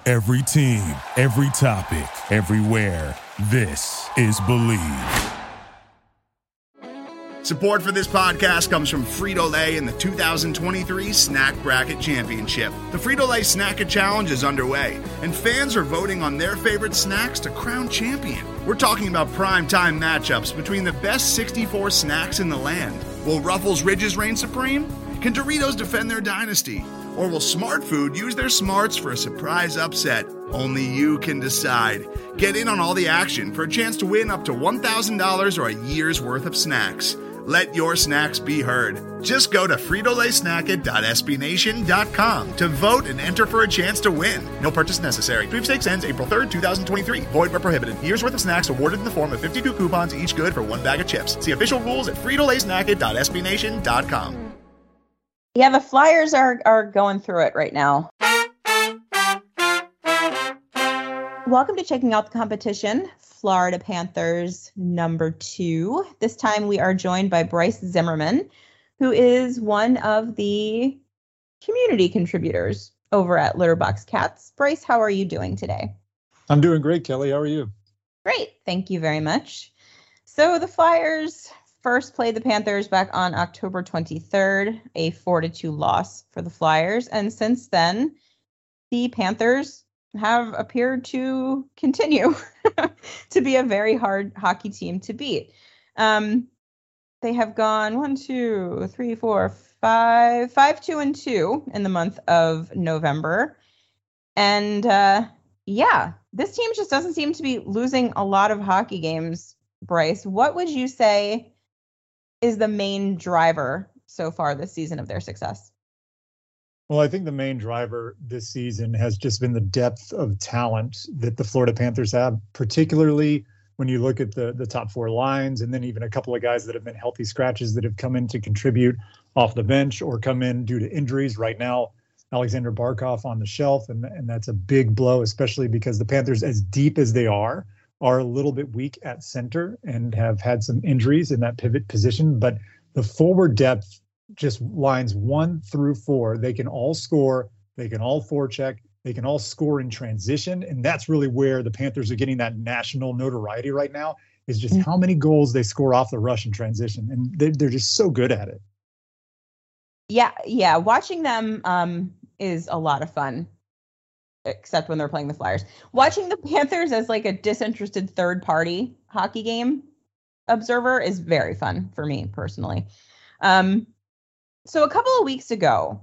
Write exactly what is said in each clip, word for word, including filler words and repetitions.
Every team, every topic, everywhere. This is Believe. Support for this podcast comes from Frito-Lay and the two thousand twenty-three Snack Bracket Championship. The Frito-Lay Snack-A Challenge is underway, and fans are voting on their favorite snacks to crown champion. We're talking about prime-time matchups between the best sixty-four snacks in the land. Will Ruffles Ridges reign supreme? Can Doritos defend their dynasty? Or will Smart Food use their smarts for a surprise upset? Only you can decide. Get in on all the action for a chance to win up to one thousand dollars or a year's worth of snacks. Let your snacks be heard. Just go to Frito Lay Snack It dot S B Nation dot com to vote and enter for a chance to win. No purchase necessary. Sweepstakes ends April third, twenty twenty-three. Void where prohibited. Year's worth of snacks awarded in the form of fifty-two coupons, each good for one bag of chips. See official rules at Frito Lay Snack It dot S B Nation dot com. Yeah, the Flyers are are going through it right now. Welcome to Checking Out the Competition, Florida Panthers number two. This time we are joined by Bryce Zimmerman, who is one of the community contributors over at Litterbox Cats. Bryce, how are you doing today? I'm doing great, Kelly. How are you? Great. Thank you very much. So the Flyers first played the Panthers back on October twenty-third, a four to two loss for the Flyers. And since then, the Panthers have appeared to continue to be a very hard hockey team to beat. Um, they have gone one, two, three, four, five, five, two, and two in the month of November. And uh, yeah, this team just doesn't seem to be losing a lot of hockey games. Bryce, what would you say is the main driver so far this season of their success? Well, I think the main driver this season has just been the depth of talent that the Florida Panthers have, particularly when you look at the the top four lines and then even a couple of guys that have been healthy scratches that have come in to contribute off the bench or come in due to injuries. Right now, Alexander Barkov on the shelf, and, and that's a big blow, especially because the Panthers, as deep as they are, are a little bit weak at center and have had some injuries in that pivot position. But the forward depth, just lines one through four, they can all score, they can all forecheck, they can all score in transition. And that's really where the Panthers are getting that national notoriety right now, is just how many goals they score off the rush in transition. And they're, they're just so good at it. Yeah, yeah. Watching them um, is a lot of fun, except when they're playing the Flyers. Watching the Panthers as like a disinterested third party hockey game observer is very fun for me personally. Um, So a couple of weeks ago,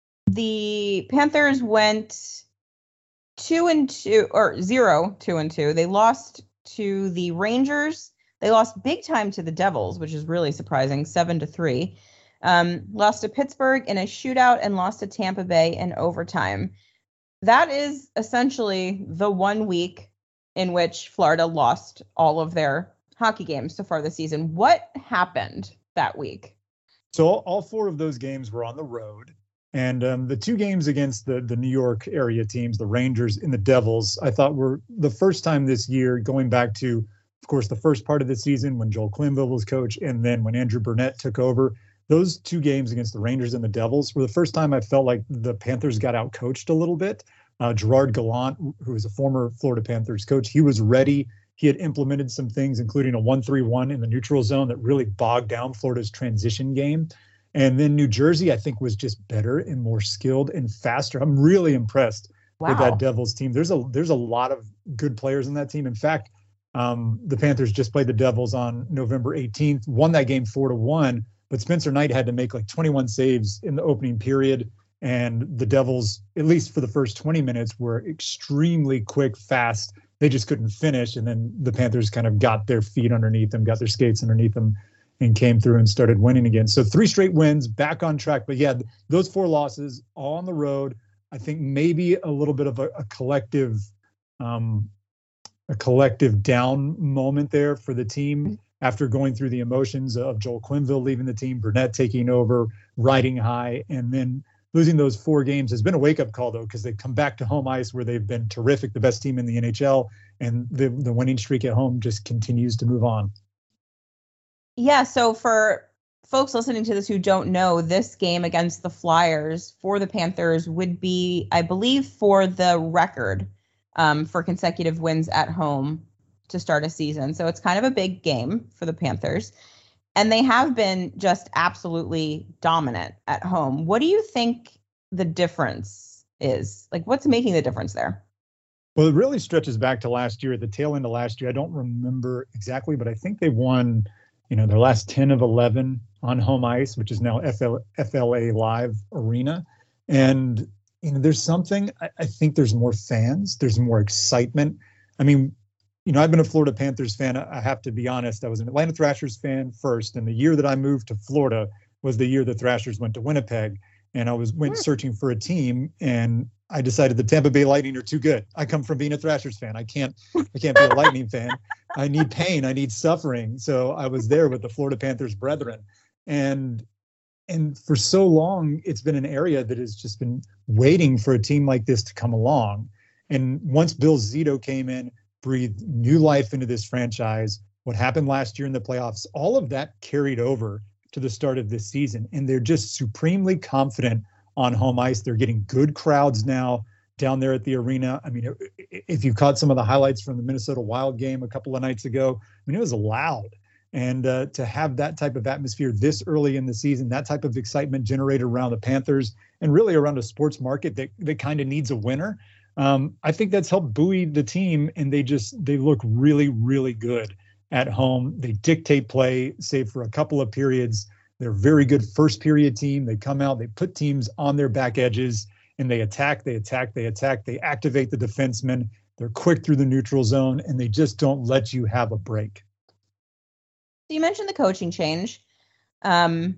the Panthers went two and two or zero, two and two. They lost to the Rangers. They lost big time to the Devils, which is really surprising, seven to three. Um, lost to Pittsburgh in a shootout and lost to Tampa Bay in overtime. That is essentially the one week in which Florida lost all of their hockey games so far this season. What happened that week? So all, all four of those games were on the road. And um, the two games against the, the New York area teams, the Rangers and the Devils, I thought were the first time this year, going back to, of course, the first part of the season when Joel Quenneville was coach, and then when Andrew Burnett took over. Those two games against the Rangers and the Devils were the first time I felt like the Panthers got out-coached a little bit. Uh, Gerard Gallant, who was a former Florida Panthers coach, he was ready. He had implemented some things, including a one three one in the neutral zone that really bogged down Florida's transition game. And then New Jersey, I think, was just better and more skilled and faster. I'm really impressed wow. with that Devils team. There's a there's a lot of good players in that team. In fact, um, the Panthers just played the Devils on November eighteenth, won that game four to one. But Spencer Knight had to make like twenty-one saves in the opening period. And the Devils, at least for the first twenty minutes, were extremely quick, fast. They just couldn't finish. And then the Panthers kind of got their feet underneath them, got their skates underneath them, and came through and started winning again. So three straight wins, back on track. But yeah, those four losses all on the road. I think maybe a little bit of a, a collective, um, a collective down moment there for the team after going through the emotions of Joel Quenneville leaving the team, Burnett taking over, riding high, and then losing those four games has been a wake-up call, though, because they've come back to home ice where they've been terrific, the best team in the N H L, and the, the winning streak at home just continues to move on. Yeah, so for folks listening to this who don't know, this game against the Flyers for the Panthers would be, I believe, for the record um, for consecutive wins at home to start a season. So it's kind of a big game for the Panthers. And they have been just absolutely dominant at home. What do you think the difference is? Like, what's making the difference there? Well, it really stretches back to last year, at the tail end of last year. I don't remember exactly, but I think they won, you know, their last ten of eleven on home ice, which is now F L, F L A Live Arena. And, you know, there's something, I, I think there's more fans, there's more excitement. I mean, you know, I've been a Florida Panthers fan. I have to be honest. I was an Atlanta Thrashers fan first. And the year that I moved to Florida was the year the Thrashers went to Winnipeg. And I was went searching for a team, and I decided the Tampa Bay Lightning are too good. I come from being a Thrashers fan. I can't, I can't be a Lightning fan. I need pain. I need suffering. So I was there with the Florida Panthers brethren. And, and for so long, it's been an area that has just been waiting for a team like this to come along. And once Bill Zito came in, breathed new life into this franchise, what happened last year in the playoffs, all of that carried over to the start of this season. And they're just supremely confident on home ice. They're getting good crowds now down there at the arena. I mean, if you caught some of the highlights from the Minnesota Wild game a couple of nights ago, I mean, it was loud. And uh, to have that type of atmosphere this early in the season, that type of excitement generated around the Panthers and really around a sports market that, that kind of needs a winner, um, I think that's helped buoy the team. And they just, they look really, really good at home. They dictate play, save for a couple of periods. They're a very good first period team. They come out, they put teams on their back edges, and they attack, they attack, they attack. They activate the defensemen. They're quick through the neutral zone, and they just don't let you have a break. So you mentioned the coaching change. Um,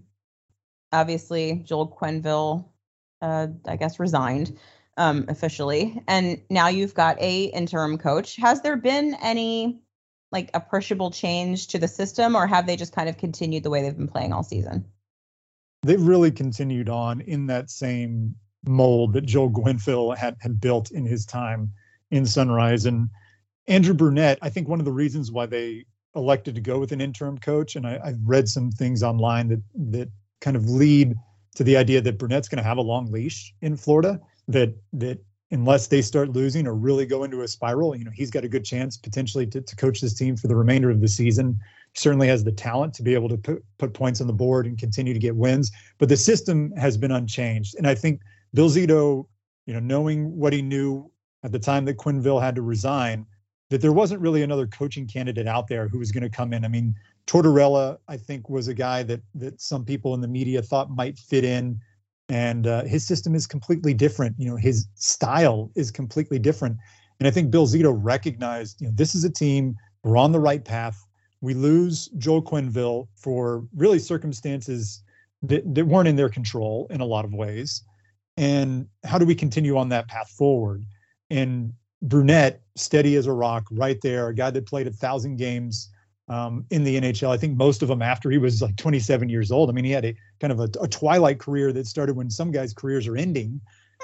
obviously, Joel Quenneville, uh, I guess, resigned um, officially, and now you've got a interim coach. Has there been any like appreciable change to the system, or have they just kind of continued the way they've been playing all season? They've really continued on in that same mold that Joel Quenneville had, had built in his time in Sunrise. And Andrew Brunette, I think one of the reasons why they elected to go with an interim coach, and I, I've read some things online that that kind of lead to the idea that Brunette's going to have a long leash in Florida, that that unless they start losing or really go into a spiral, you know, he's got a good chance potentially to, to coach this team for the remainder of the season. He certainly has the talent to be able to put, put points on the board and continue to get wins, but the system has been unchanged. And I think Bill Zito, you know, knowing what he knew at the time that Quenneville had to resign, that there wasn't really another coaching candidate out there who was going to come in. I mean, Tortorella, I think, was a guy that that some people in the media thought might fit in. And uh, his system is completely different. You know, his style is completely different. And I think Bill Zito recognized, you know, this is a team, we're on the right path. We lose Joel Quenneville for really circumstances that, that weren't in their control in a lot of ways. And how do we continue on that path forward? And Brunette, steady as a rock, right there, a guy that played a thousand games um, in the N H L. I think most of them after he was like twenty-seven years old. I mean, he had a kind of a, a twilight career that started when some guys' careers are ending.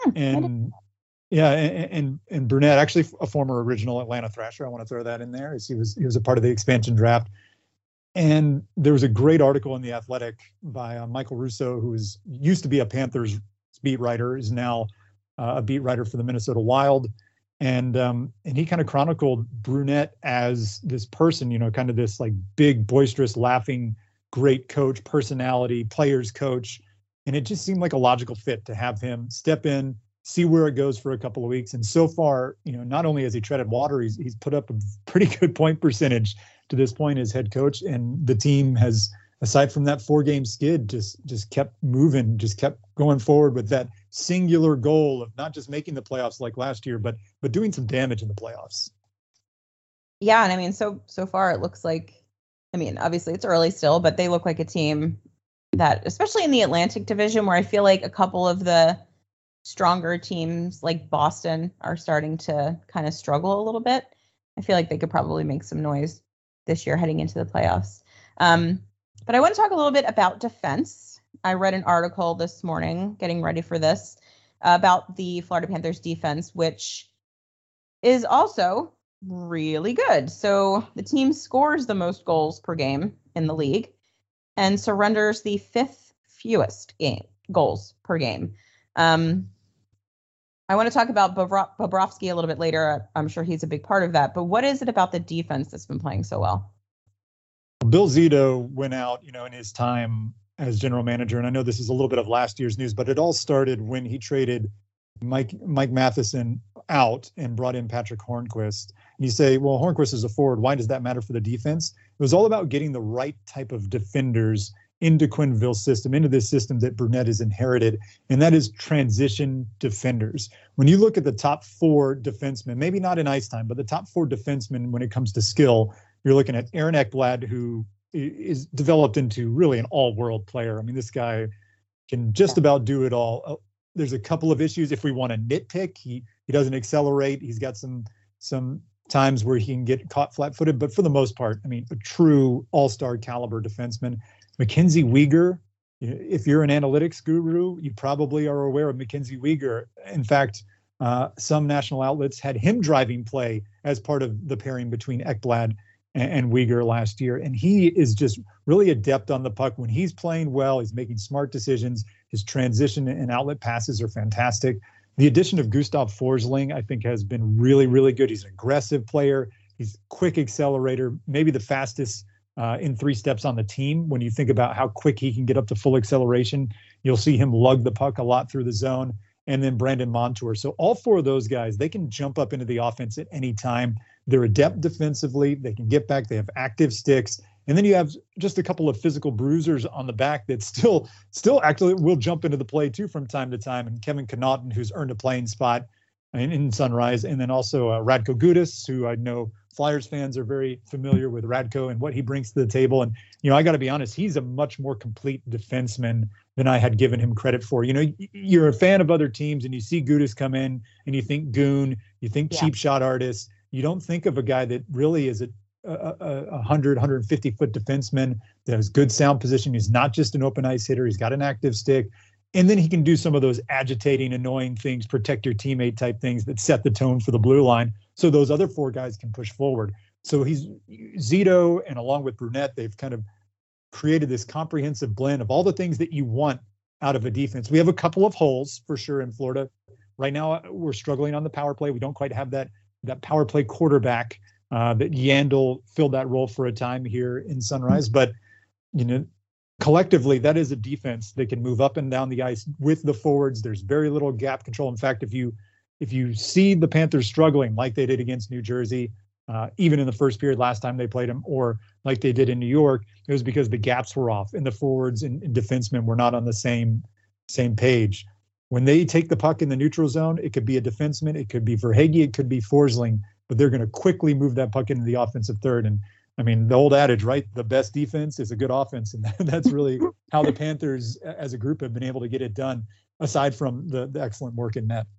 And yeah, and, and and Brunette, actually a former original Atlanta Thrasher. I want to throw that in there, as he was he was a part of the expansion draft. And there was a great article in The Athletic by uh, Michael Russo, who was used to be a Panthers beat writer, is now uh, a beat writer for the Minnesota Wild. And um, and he kind of chronicled Brunette as this person, you know, kind of this like big, boisterous, laughing, great coach, personality, players coach. And it just seemed like a logical fit to have him step in, see where it goes for a couple of weeks. And so far, you know, not only has he treaded water, he's he's put up a pretty good point percentage to this point as head coach. And the team has, aside from that four game skid, just just kept moving, just kept going forward with that singular goal of not just making the playoffs like last year, but but doing some damage in the playoffs. Yeah, and I mean, so so far it looks like, I mean, obviously it's early still, but they look like a team that, especially in the Atlantic Division, where I feel like a couple of the stronger teams like Boston are starting to kind of struggle a little bit. I feel like they could probably make some noise this year heading into the playoffs. Um, but I want to talk a little bit about defense. I read an article this morning, getting ready for this, uh, about the Florida Panthers defense, which is also really good. So the team scores the most goals per game in the league. and surrenders the fifth fewest game goals per game. Um, I want to talk about Bobro- Bobrovsky a little bit later. I'm sure he's a big part of that. But what is it about the defense that's been playing so well? Bill Zito went out, you know, in his time as general manager, and I know this is a little bit of last year's news, but it all started when he traded Mike Mike Matheson out and brought in Patrick Hornquist. And you say, well, Hornquist is a forward. Why does that matter for the defense? It was all about getting the right type of defenders into Quenneville's system, into this system that Brunette has inherited, and that is transition defenders. When you look at the top four defensemen, maybe not in ice time, but the top four defensemen when it comes to skill, you're looking at Aaron Ekblad, who is developed into really an all-world player. I mean, this guy can just about do it all. There's a couple of issues if we want to nitpick. He he doesn't accelerate. He's got some some times where he can get caught flat-footed, but for the most part, I mean, a true all-star caliber defenseman. Mackenzie Weegar, if you're an analytics guru, you probably are aware of Mackenzie Weegar. In fact, uh, some national outlets had him driving play as part of the pairing between Ekblad and, and Weegar last year. And he is just really adept on the puck. When he's playing well, he's making smart decisions. His transition and outlet passes are fantastic. The addition of Gustav Forsling, I think, has been really, really good. He's an aggressive player. He's a quick accelerator, maybe the fastest Uh, in three steps on the team. When you think about how quick he can get up to full acceleration, you'll see him lug the puck a lot through the zone. And then Brandon Montour. So all four of those guys, they can jump up into the offense at any time. They're adept defensively. They can get back. They have active sticks. And then you have just a couple of physical bruisers on the back that still, still actually will jump into the play too from time to time. And Kevin Connaughton, who's earned a playing spot in, in Sunrise. And then also uh, Radko Gudas, who I know Flyers fans are very familiar with Radko and what he brings to the table. And, you know, I got to be honest, he's a much more complete defenseman than I had given him credit for. You know, you're a fan of other teams and you see Gudas come in and you think goon, you think yeah. cheap shot artist. You don't think of a guy that really is a, a, a one hundred, one hundred fifty foot defenseman that has good sound position. He's not just an open ice hitter. He's got an active stick. And then he can do some of those agitating, annoying things, protect your teammate type things that set the tone for the blue line. So those other four guys can push forward. So he's Zito, and along with Brunette, they've kind of created this comprehensive blend of all the things that you want out of a defense. We have a couple of holes for sure in Florida. Right now, we're struggling on the power play. We don't quite have that that power play quarterback uh, that Yandel filled that role for a time here in Sunrise. But, you know, collectively, that is a defense that can move up and down the ice with the forwards. There's very little gap control. In fact, if you if you see the Panthers struggling like they did against New Jersey, uh, even in the first period last time they played them, or like they did in New York, it was because the gaps were off and the forwards and, and defensemen were not on the same same page. When they take the puck in the neutral zone, it could be a defenseman, it could be Verhaeghe, it could be Forsling, but they're going to quickly move that puck into the offensive third. And I mean, the old adage, right? The best defense is a good offense. And that's really how the Panthers as a group have been able to get it done, aside from the, the excellent work in net.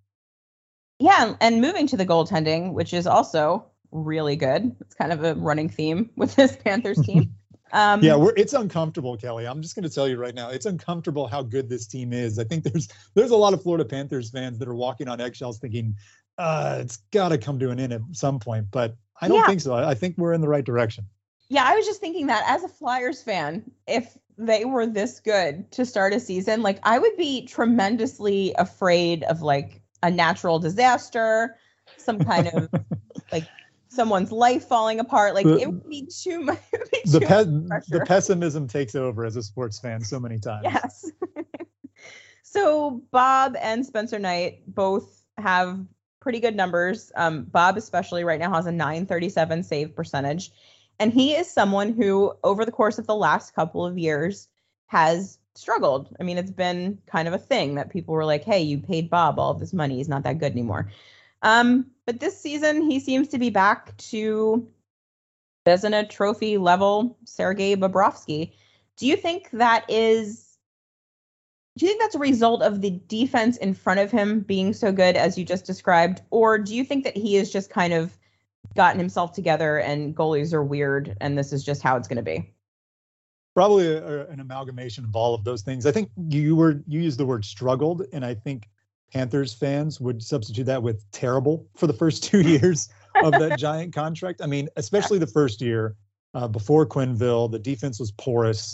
Yeah, and moving to the goaltending, which is also really good. It's kind of a running theme with this Panthers team. Um, yeah, we're, it's uncomfortable, Kelly. I'm just going to tell you right now, it's uncomfortable how good this team is. I think there's there's a lot of Florida Panthers fans that are walking on eggshells thinking, uh, it's got to come to an end at some point. But I don't yeah. think so. I think we're in the right direction. Yeah, I was just thinking that as a Flyers fan, if they were this good to start a season, like I would be tremendously afraid of like a natural disaster, some kind of like someone's life falling apart. Like the, it would be too much. Be the, too pe- much the pessimism takes over as a sports fan so many times. Yes. So Bob and Spencer Knight both have pretty good numbers. Um, Bob especially right now has a nine thirty-seven save percentage. And he is someone who over the course of the last couple of years has struggled. I mean, it's been kind of a thing that people were like, hey, you paid Bob all of this money. He's not that good anymore. Um, but this season, he seems to be back to Vezina Trophy level Sergei Bobrovsky. Do you think that is, do you think that's a result of the defense in front of him being so good as you just described? Or do you think that he has just kind of gotten himself together and goalies are weird and this is just how it's going to be? Probably a, a, an amalgamation of all of those things. I think you were you used the word struggled, and I think Panthers fans would substitute that with terrible for the first two years of that giant contract. I mean, especially the first year uh, before Quenneville, the defense was porous,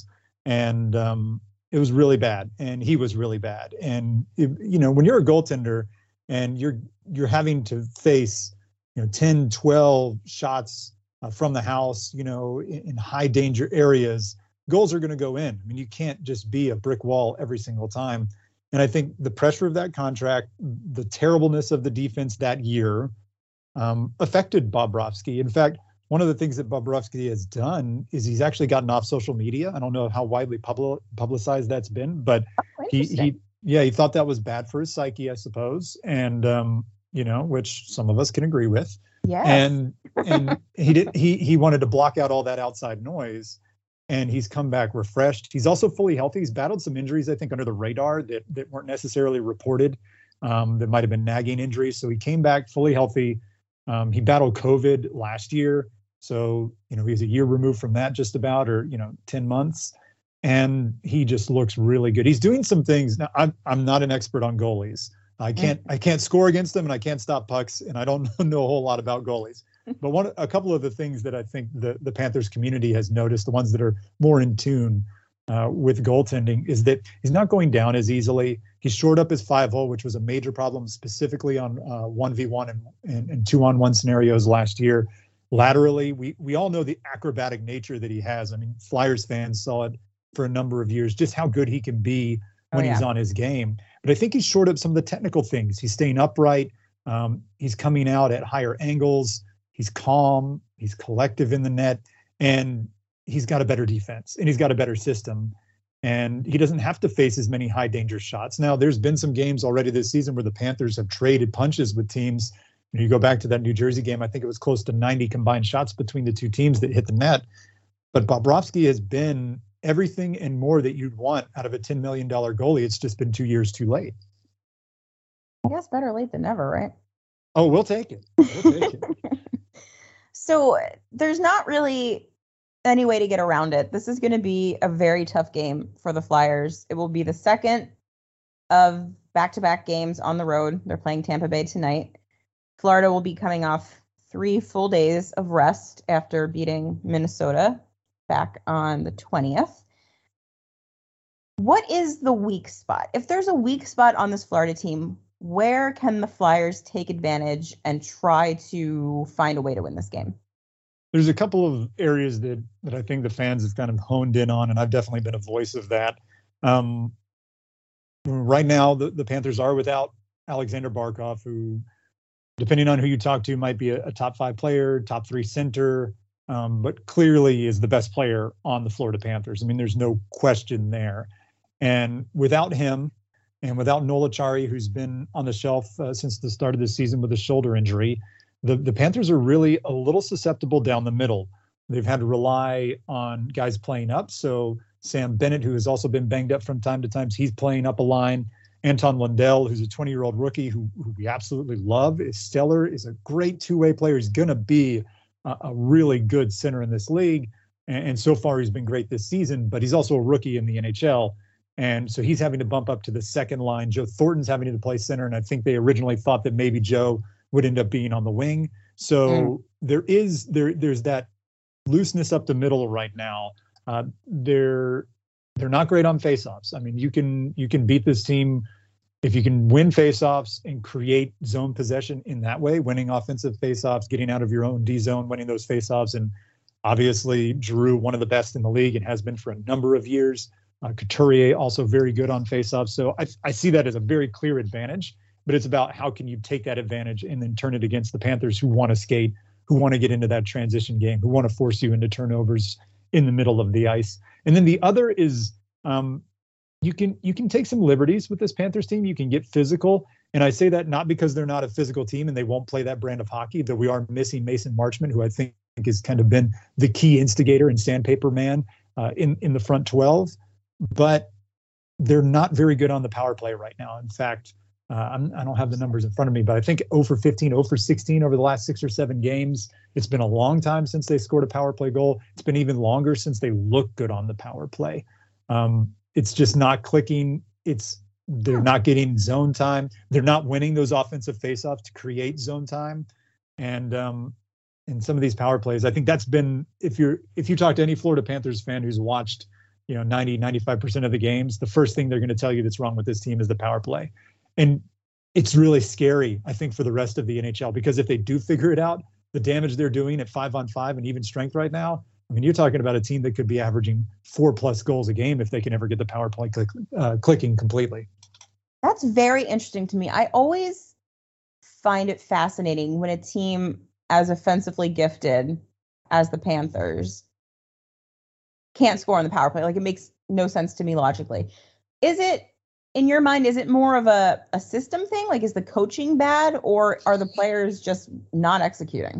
and um, it was really bad. And he was really bad. And it, you know, when you're a goaltender and you're you're having to face, you know, ten, twelve shots uh, from the house, you know, in, in high danger areas, goals are going to go in. I mean, you can't just be a brick wall every single time. And I think the pressure of that contract, the terribleness of the defense that year, um, affected Bobrovsky. In fact, one of the things that Bobrovsky has done is he's actually gotten off social media. I don't know how widely public, publicized that's been, but oh, he, he, yeah, he thought that was bad for his psyche, I suppose. And, um, you know, which some of us can agree with. Yeah. And, and he did, he, he wanted to block out all that outside noise. And he's come back refreshed. He's also fully healthy. He's battled some injuries, I think, under the radar that, that weren't necessarily reported. Um, that might have been nagging injuries. So he came back fully healthy. Um, he battled COVID last year. So, you know, he's a year removed from that just about, or, you know, ten months. And he just looks really good. He's doing some things. Now, I'm, I'm not an expert on goalies. I can't I can't score against them, and I can't stop pucks, and I don't know a whole lot about goalies. But one a couple of the things that I think the, the Panthers community has noticed, the ones that are more in tune uh, with goaltending, is that he's not going down as easily. He shored up his five-hole, which was a major problem specifically on uh, one v one and, and, and two-on-one scenarios last year. Laterally, we, we all know the acrobatic nature that he has. I mean, Flyers fans saw it for a number of years, just how good he can be when oh, yeah. he's on his game. But I think he's shored up some of the technical things. He's staying upright. Um, he's coming out at higher angles. He's calm. He's collective in the net. And he's got a better defense. And he's got a better system. And he doesn't have to face as many high danger shots. Now, there's been some games already this season where the Panthers have traded punches with teams. You know, you go back to that New Jersey game, I think it was close to ninety combined shots between the two teams that hit the net. But Bobrovsky has been everything and more that you'd want out of a ten million dollars goalie. It's just been two years too late. I guess better late than never, right? Oh, we'll take it. We'll take it. So there's not really any way to get around it. This is going to be a very tough game for the Flyers. It will be the second of back-to-back games on the road. They're playing Tampa Bay tonight. Florida will be coming off three full days of rest after beating Minnesota back on the twentieth. What is the weak spot? If there's a weak spot on this Florida team, where can the Flyers take advantage and try to find a way to win this game? There's a couple of areas that, that I think the fans have kind of honed in on, and I've definitely been a voice of that. Um, right now, the, the Panthers are without Alexander Barkov, who, depending on who you talk to, might be a, a top five player, top three center, um, but clearly is the best player on the Florida Panthers. I mean, there's no question there. And without him, and without Noel Acciari, who's been on the shelf uh, since the start of the season with a shoulder injury, the, the Panthers are really a little susceptible down the middle. They've had to rely on guys playing up. So Sam Bennett, who has also been banged up from time to time, he's playing up a line. Anton Lundell, who's a twenty-year-old rookie who, who we absolutely love, is stellar, is a great two-way player. He's going to be a, a really good center in this league. And, and so far, he's been great this season, but he's also a rookie in the N H L. And so he's having to bump up to the second line. Joe Thornton's having to play center, and I think they originally thought that maybe Joe would end up being on the wing. So mm. there is there there's that looseness up the middle right now. Uh, they're they're not great on faceoffs. I mean, you can you can beat this team if you can win faceoffs and create zone possession in that way, winning offensive faceoffs, getting out of your own D zone, winning those faceoffs. And obviously, Giroux, one of the best in the league and has been for a number of years. Uh, Couturier also very good on faceoffs. So I, I see that as a very clear advantage, but it's about how can you take that advantage and then turn it against the Panthers, who want to skate, who want to get into that transition game, who want to force you into turnovers in the middle of the ice. And then the other is um, you can you can take some liberties with this Panthers team. You can get physical. And I say that not because they're not a physical team and they won't play that brand of hockey, though we are missing Mason Marchment, who I think has kind of been the key instigator and sandpaper man uh, in, in the front twelve. But they're not very good on the power play right now. In fact, uh, I'm, I don't have the numbers in front of me, but I think zero for fifteen, zero for sixteen over the last six or seven games. It's been a long time since they scored a power play goal. It's been even longer since they look good on the power play. Um, it's just not clicking. It's they're not getting zone time. They're not winning those offensive faceoffs to create zone time. And um, in some of these power plays, I think that's been if you're if you talk to any Florida Panthers fan who's watched you know, ninety, ninety-five percent of the games, the first thing they're going to tell you that's wrong with this team is the power play. And it's really scary, I think, for the rest of the N H L, because if they do figure it out, the damage they're doing at five on five and even strength right now, I mean, you're talking about a team that could be averaging four plus goals a game if they can ever get the power play click, uh, clicking completely. That's very interesting to me. I always find it fascinating when a team as offensively gifted as the Panthers can't score on the power play. Like, it makes no sense to me logically. Is it, in your mind, is it more of a, a system thing? Like, is the coaching bad, or are the players just not executing?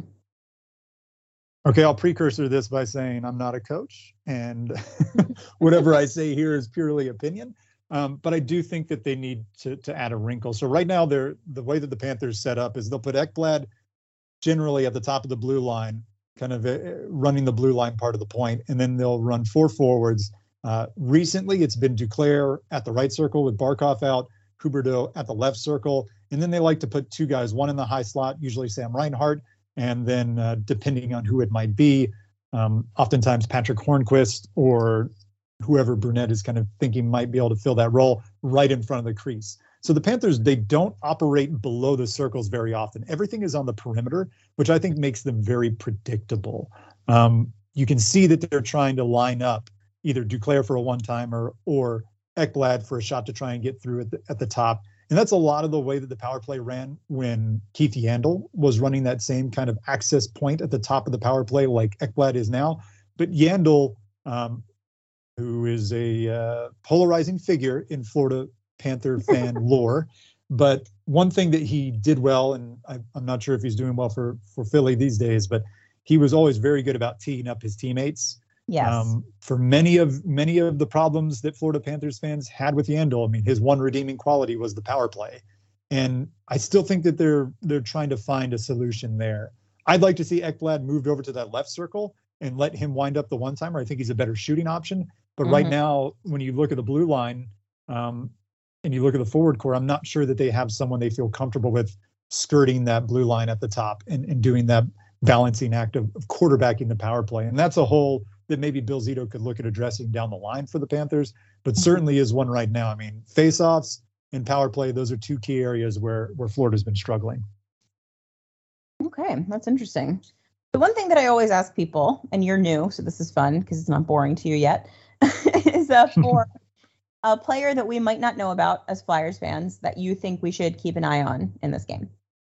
Okay, I'll precursor this by saying I'm not a coach, and whatever I say here is purely opinion. Um, but I do think that they need to to add a wrinkle. So right now, they're the way that the Panthers set up is they'll put Ekblad generally at the top of the blue line, kind of uh, running the blue line part of the point, and then they'll run four forwards. Uh, recently, it's been Duclair at the right circle with Barkov out, Huberdeau at the left circle, and then they like to put two guys, one in the high slot, usually Sam Reinhart, and then uh, depending on who it might be, um, oftentimes Patrick Hornquist or whoever Brunette is kind of thinking might be able to fill that role right in front of the crease. So the Panthers, they don't operate below the circles very often. Everything is on the perimeter, which I think makes them very predictable. Um, you can see that they're trying to line up either Duclair for a one-timer or Ekblad for a shot to try and get through at the, at the top. And that's a lot of the way that the power play ran when Keith Yandle was running that same kind of access point at the top of the power play like Ekblad is now. But Yandle, um, who is a uh, polarizing figure in Florida Panther fan lore. But one thing that he did well, and I, I'm not sure if he's doing well for, for Philly these days, but he was always very good about teeing up his teammates. Yes. Um, for many of many of the problems that Florida Panthers fans had with Yandle, I mean, his one redeeming quality was the power play. And I still think that they're they're trying to find a solution there. I'd like to see Ekblad moved over to that left circle and let him wind up the one-timer. I think he's a better shooting option. But mm-hmm. right now, when you look at the blue line um, and you look at the forward core, I'm not sure that they have someone they feel comfortable with skirting that blue line at the top and, and doing that balancing act of, of quarterbacking the power play. And that's a hole that maybe Bill Zito could look at addressing down the line for the Panthers, but mm-hmm. certainly is one right now. I mean, faceoffs and power play, those are two key areas where, where Florida's been struggling. Okay, that's interesting. The one thing that I always ask people, and you're new, so this is fun because it's not boring to you yet, is uh, for a player that we might not know about as Flyers fans that you think we should keep an eye on in this game.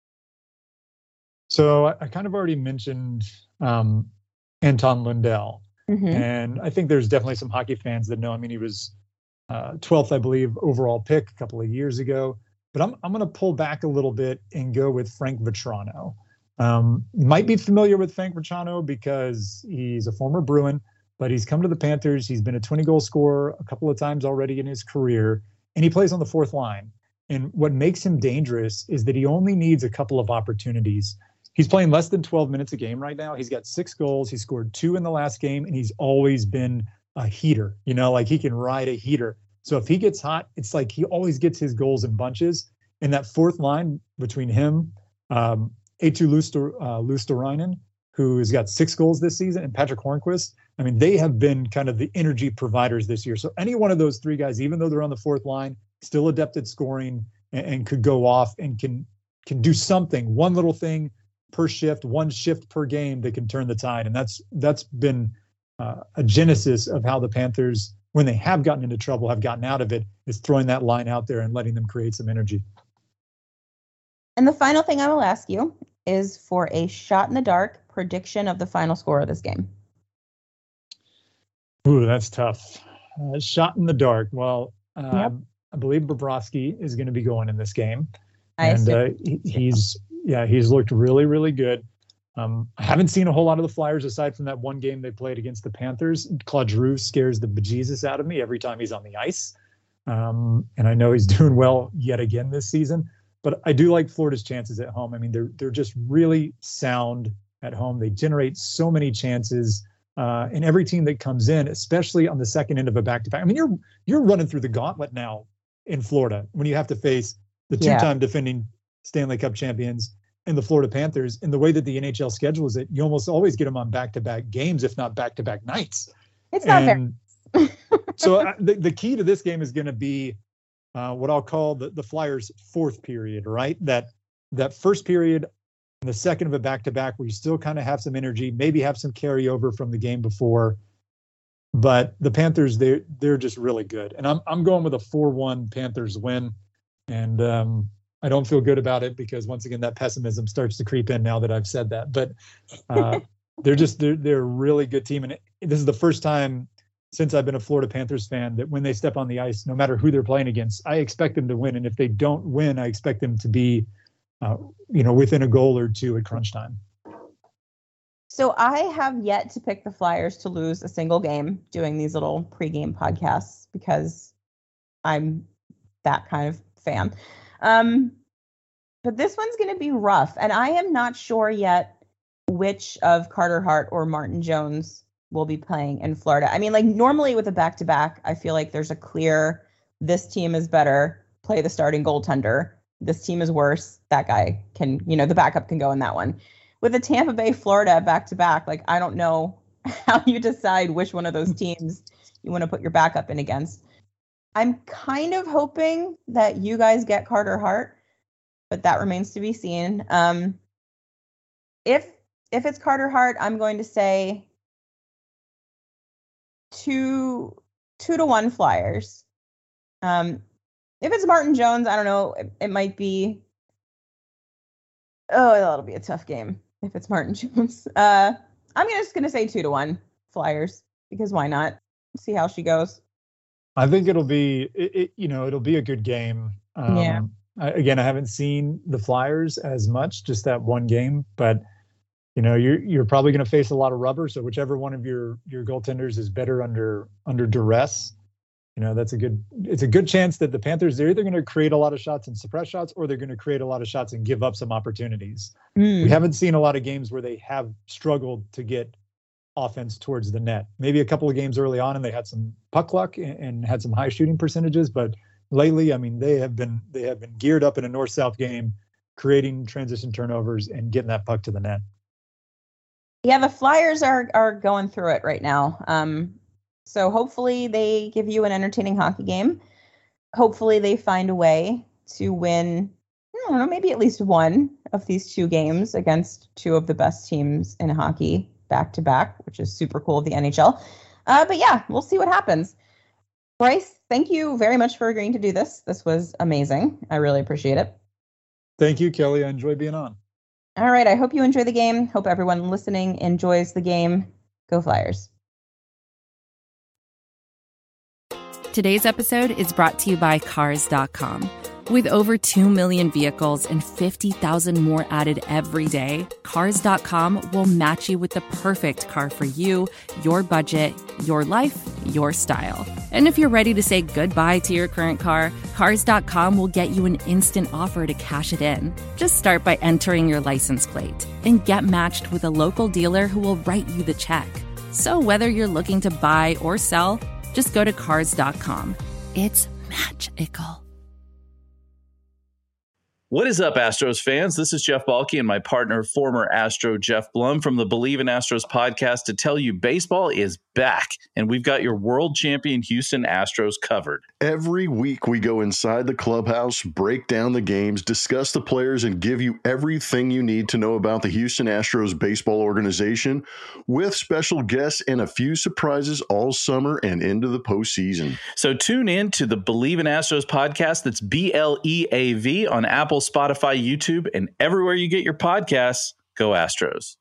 So I, I kind of already mentioned um, Anton Lundell. Mm-hmm. And I think there's definitely some hockey fans that know. I mean, he was uh, twelfth, I believe, overall pick a couple of years ago. But I'm I'm going to pull back a little bit and go with Frank Vatrano. Um, might be familiar with Frank Vatrano because he's a former Bruin, but he's come to the Panthers. He's been a twenty-goal scorer a couple of times already in his career, and he plays on the fourth line. And what makes him dangerous is that he only needs a couple of opportunities. He's playing less than twelve minutes a game right now. He's got six goals. He scored two in the last game, and he's always been a heater. You know, like he can ride a heater. So if he gets hot, it's like he always gets his goals in bunches. And that fourth line between him, um, Eetu Luster, uh, Luostarinen, who has got six goals this season, and Patrick Hornquist, I mean, they have been kind of the energy providers this year. So any one of those three guys, even though they're on the fourth line, still adept at scoring and, and could go off and can can do something, one little thing per shift, one shift per game that can turn the tide. And that's that's been uh, a genesis of how the Panthers, when they have gotten into trouble, have gotten out of it, is throwing that line out there and letting them create some energy. And the final thing I will ask you is for a shot in the dark prediction of the final score of this game. Ooh, that's tough. Uh, shot in the dark. Well, uh, yep. I believe Bobrovsky is going to be going in this game. I and uh, he, he's, yeah, he's looked really, really good. Um, I haven't seen a whole lot of the Flyers aside from that one game they played against the Panthers. Claude Giroux scares the bejesus out of me every time he's on the ice. Um, and I know he's doing well yet again this season. But I do like Florida's chances at home. I mean, they're they're just really sound at home. They generate so many chances. Uh, and every team that comes in, especially on the second end of a back-to-back. I mean, you're you're running through the gauntlet now in Florida when you have to face the two-time yeah. defending Stanley Cup champions and the Florida Panthers. And the way that the N H L schedules it, you almost always get them on back-to-back games, if not back-to-back nights. It's not and, fair. so uh, the, the key to this game is going to be uh, what I'll call the, the Flyers' fourth period, right? That that first period and the second of a back-to-back where you still kind of have some energy, maybe have some carryover from the game before. But the Panthers, they're, they're just really good. And I'm I'm going with a four one Panthers win. And um, I don't feel good about it because, once again, that pessimism starts to creep in now that I've said that. But uh, they're just they're, they're a really good team. And this is the first time since I've been a Florida Panthers fan that when they step on the ice, no matter who they're playing against, I expect them to win. And if they don't win, I expect them to be, uh, you know, within a goal or two at crunch time. So I have yet to pick the Flyers to lose a single game doing these little pregame podcasts because I'm that kind of fan. Um, but this one's going to be rough. And I am not sure yet which of Carter Hart or Martin Jones will be playing in Florida. I mean, like normally with a back-to-back, I feel like there's a clear, this team is better, play the starting goaltender. This team is worse. That guy can, you know, the backup can go in that one. With a Tampa Bay, Florida back-to-back, like I don't know how you decide which one of those teams you want to put your backup in against. I'm kind of hoping that you guys get Carter Hart, but that remains to be seen. Um, if if it's Carter Hart, I'm going to say two two to one Flyers. Um, if it's Martin Jones, I don't know. It, it might be. Oh, that'll be a tough game if it's Martin Jones. Uh, I'm just going to say two to one Flyers because why not? See how she goes. I think it'll be, it, it, you know, it'll be a good game. Um, yeah. I, again, I haven't seen the Flyers as much, just that one game, but you know, you're you're probably going to face a lot of rubber. So whichever one of your your goaltenders is better under under duress, you know, that's a good. It's a good chance that the Panthers, they're either going to create a lot of shots and suppress shots, or they're going to create a lot of shots and give up some opportunities. Mm. We haven't seen a lot of games where they have struggled to get offense towards the net. Maybe a couple of games early on, and they had some puck luck and, and had some high shooting percentages. But lately, I mean, they have been they have been geared up in a north-south game, creating transition turnovers and getting that puck to the net. Yeah, the Flyers are are going through it right now. Um, so hopefully they give you an entertaining hockey game. Hopefully they find a way to win, I don't know, maybe at least one of these two games against two of the best teams in hockey back to back, which is super cool of the N H L. Uh, but yeah, we'll see what happens. Bryce, thank you very much for agreeing to do this. This was amazing. I really appreciate it. Thank you, Kelly. I enjoyed being on. All right. I hope you enjoy the game. Hope everyone listening enjoys the game. Go Flyers. Today's episode is brought to you by Cars dot com. With over two million vehicles and fifty thousand more added every day, Cars dot com will match you with the perfect car for you, your budget, your life, your style. And if you're ready to say goodbye to your current car, Cars dot com will get you an instant offer to cash it in. Just start by entering your license plate and get matched with a local dealer who will write you the check. So whether you're looking to buy or sell, just go to Cars dot com. It's magical. What is up, Astros fans? This is Jeff Balke and my partner, former Astro Jeff Blum from the Believe in Astros podcast to tell you baseball is back, and we've got your world champion Houston Astros covered. Every week we go inside the clubhouse, break down the games, discuss the players, and give you everything you need to know about the Houston Astros baseball organization with special guests and a few surprises all summer and into the postseason. So tune in to the Believe in Astros podcast. That's B L E A V on Apple, Spotify, YouTube, and everywhere you get your podcasts. Go Astros.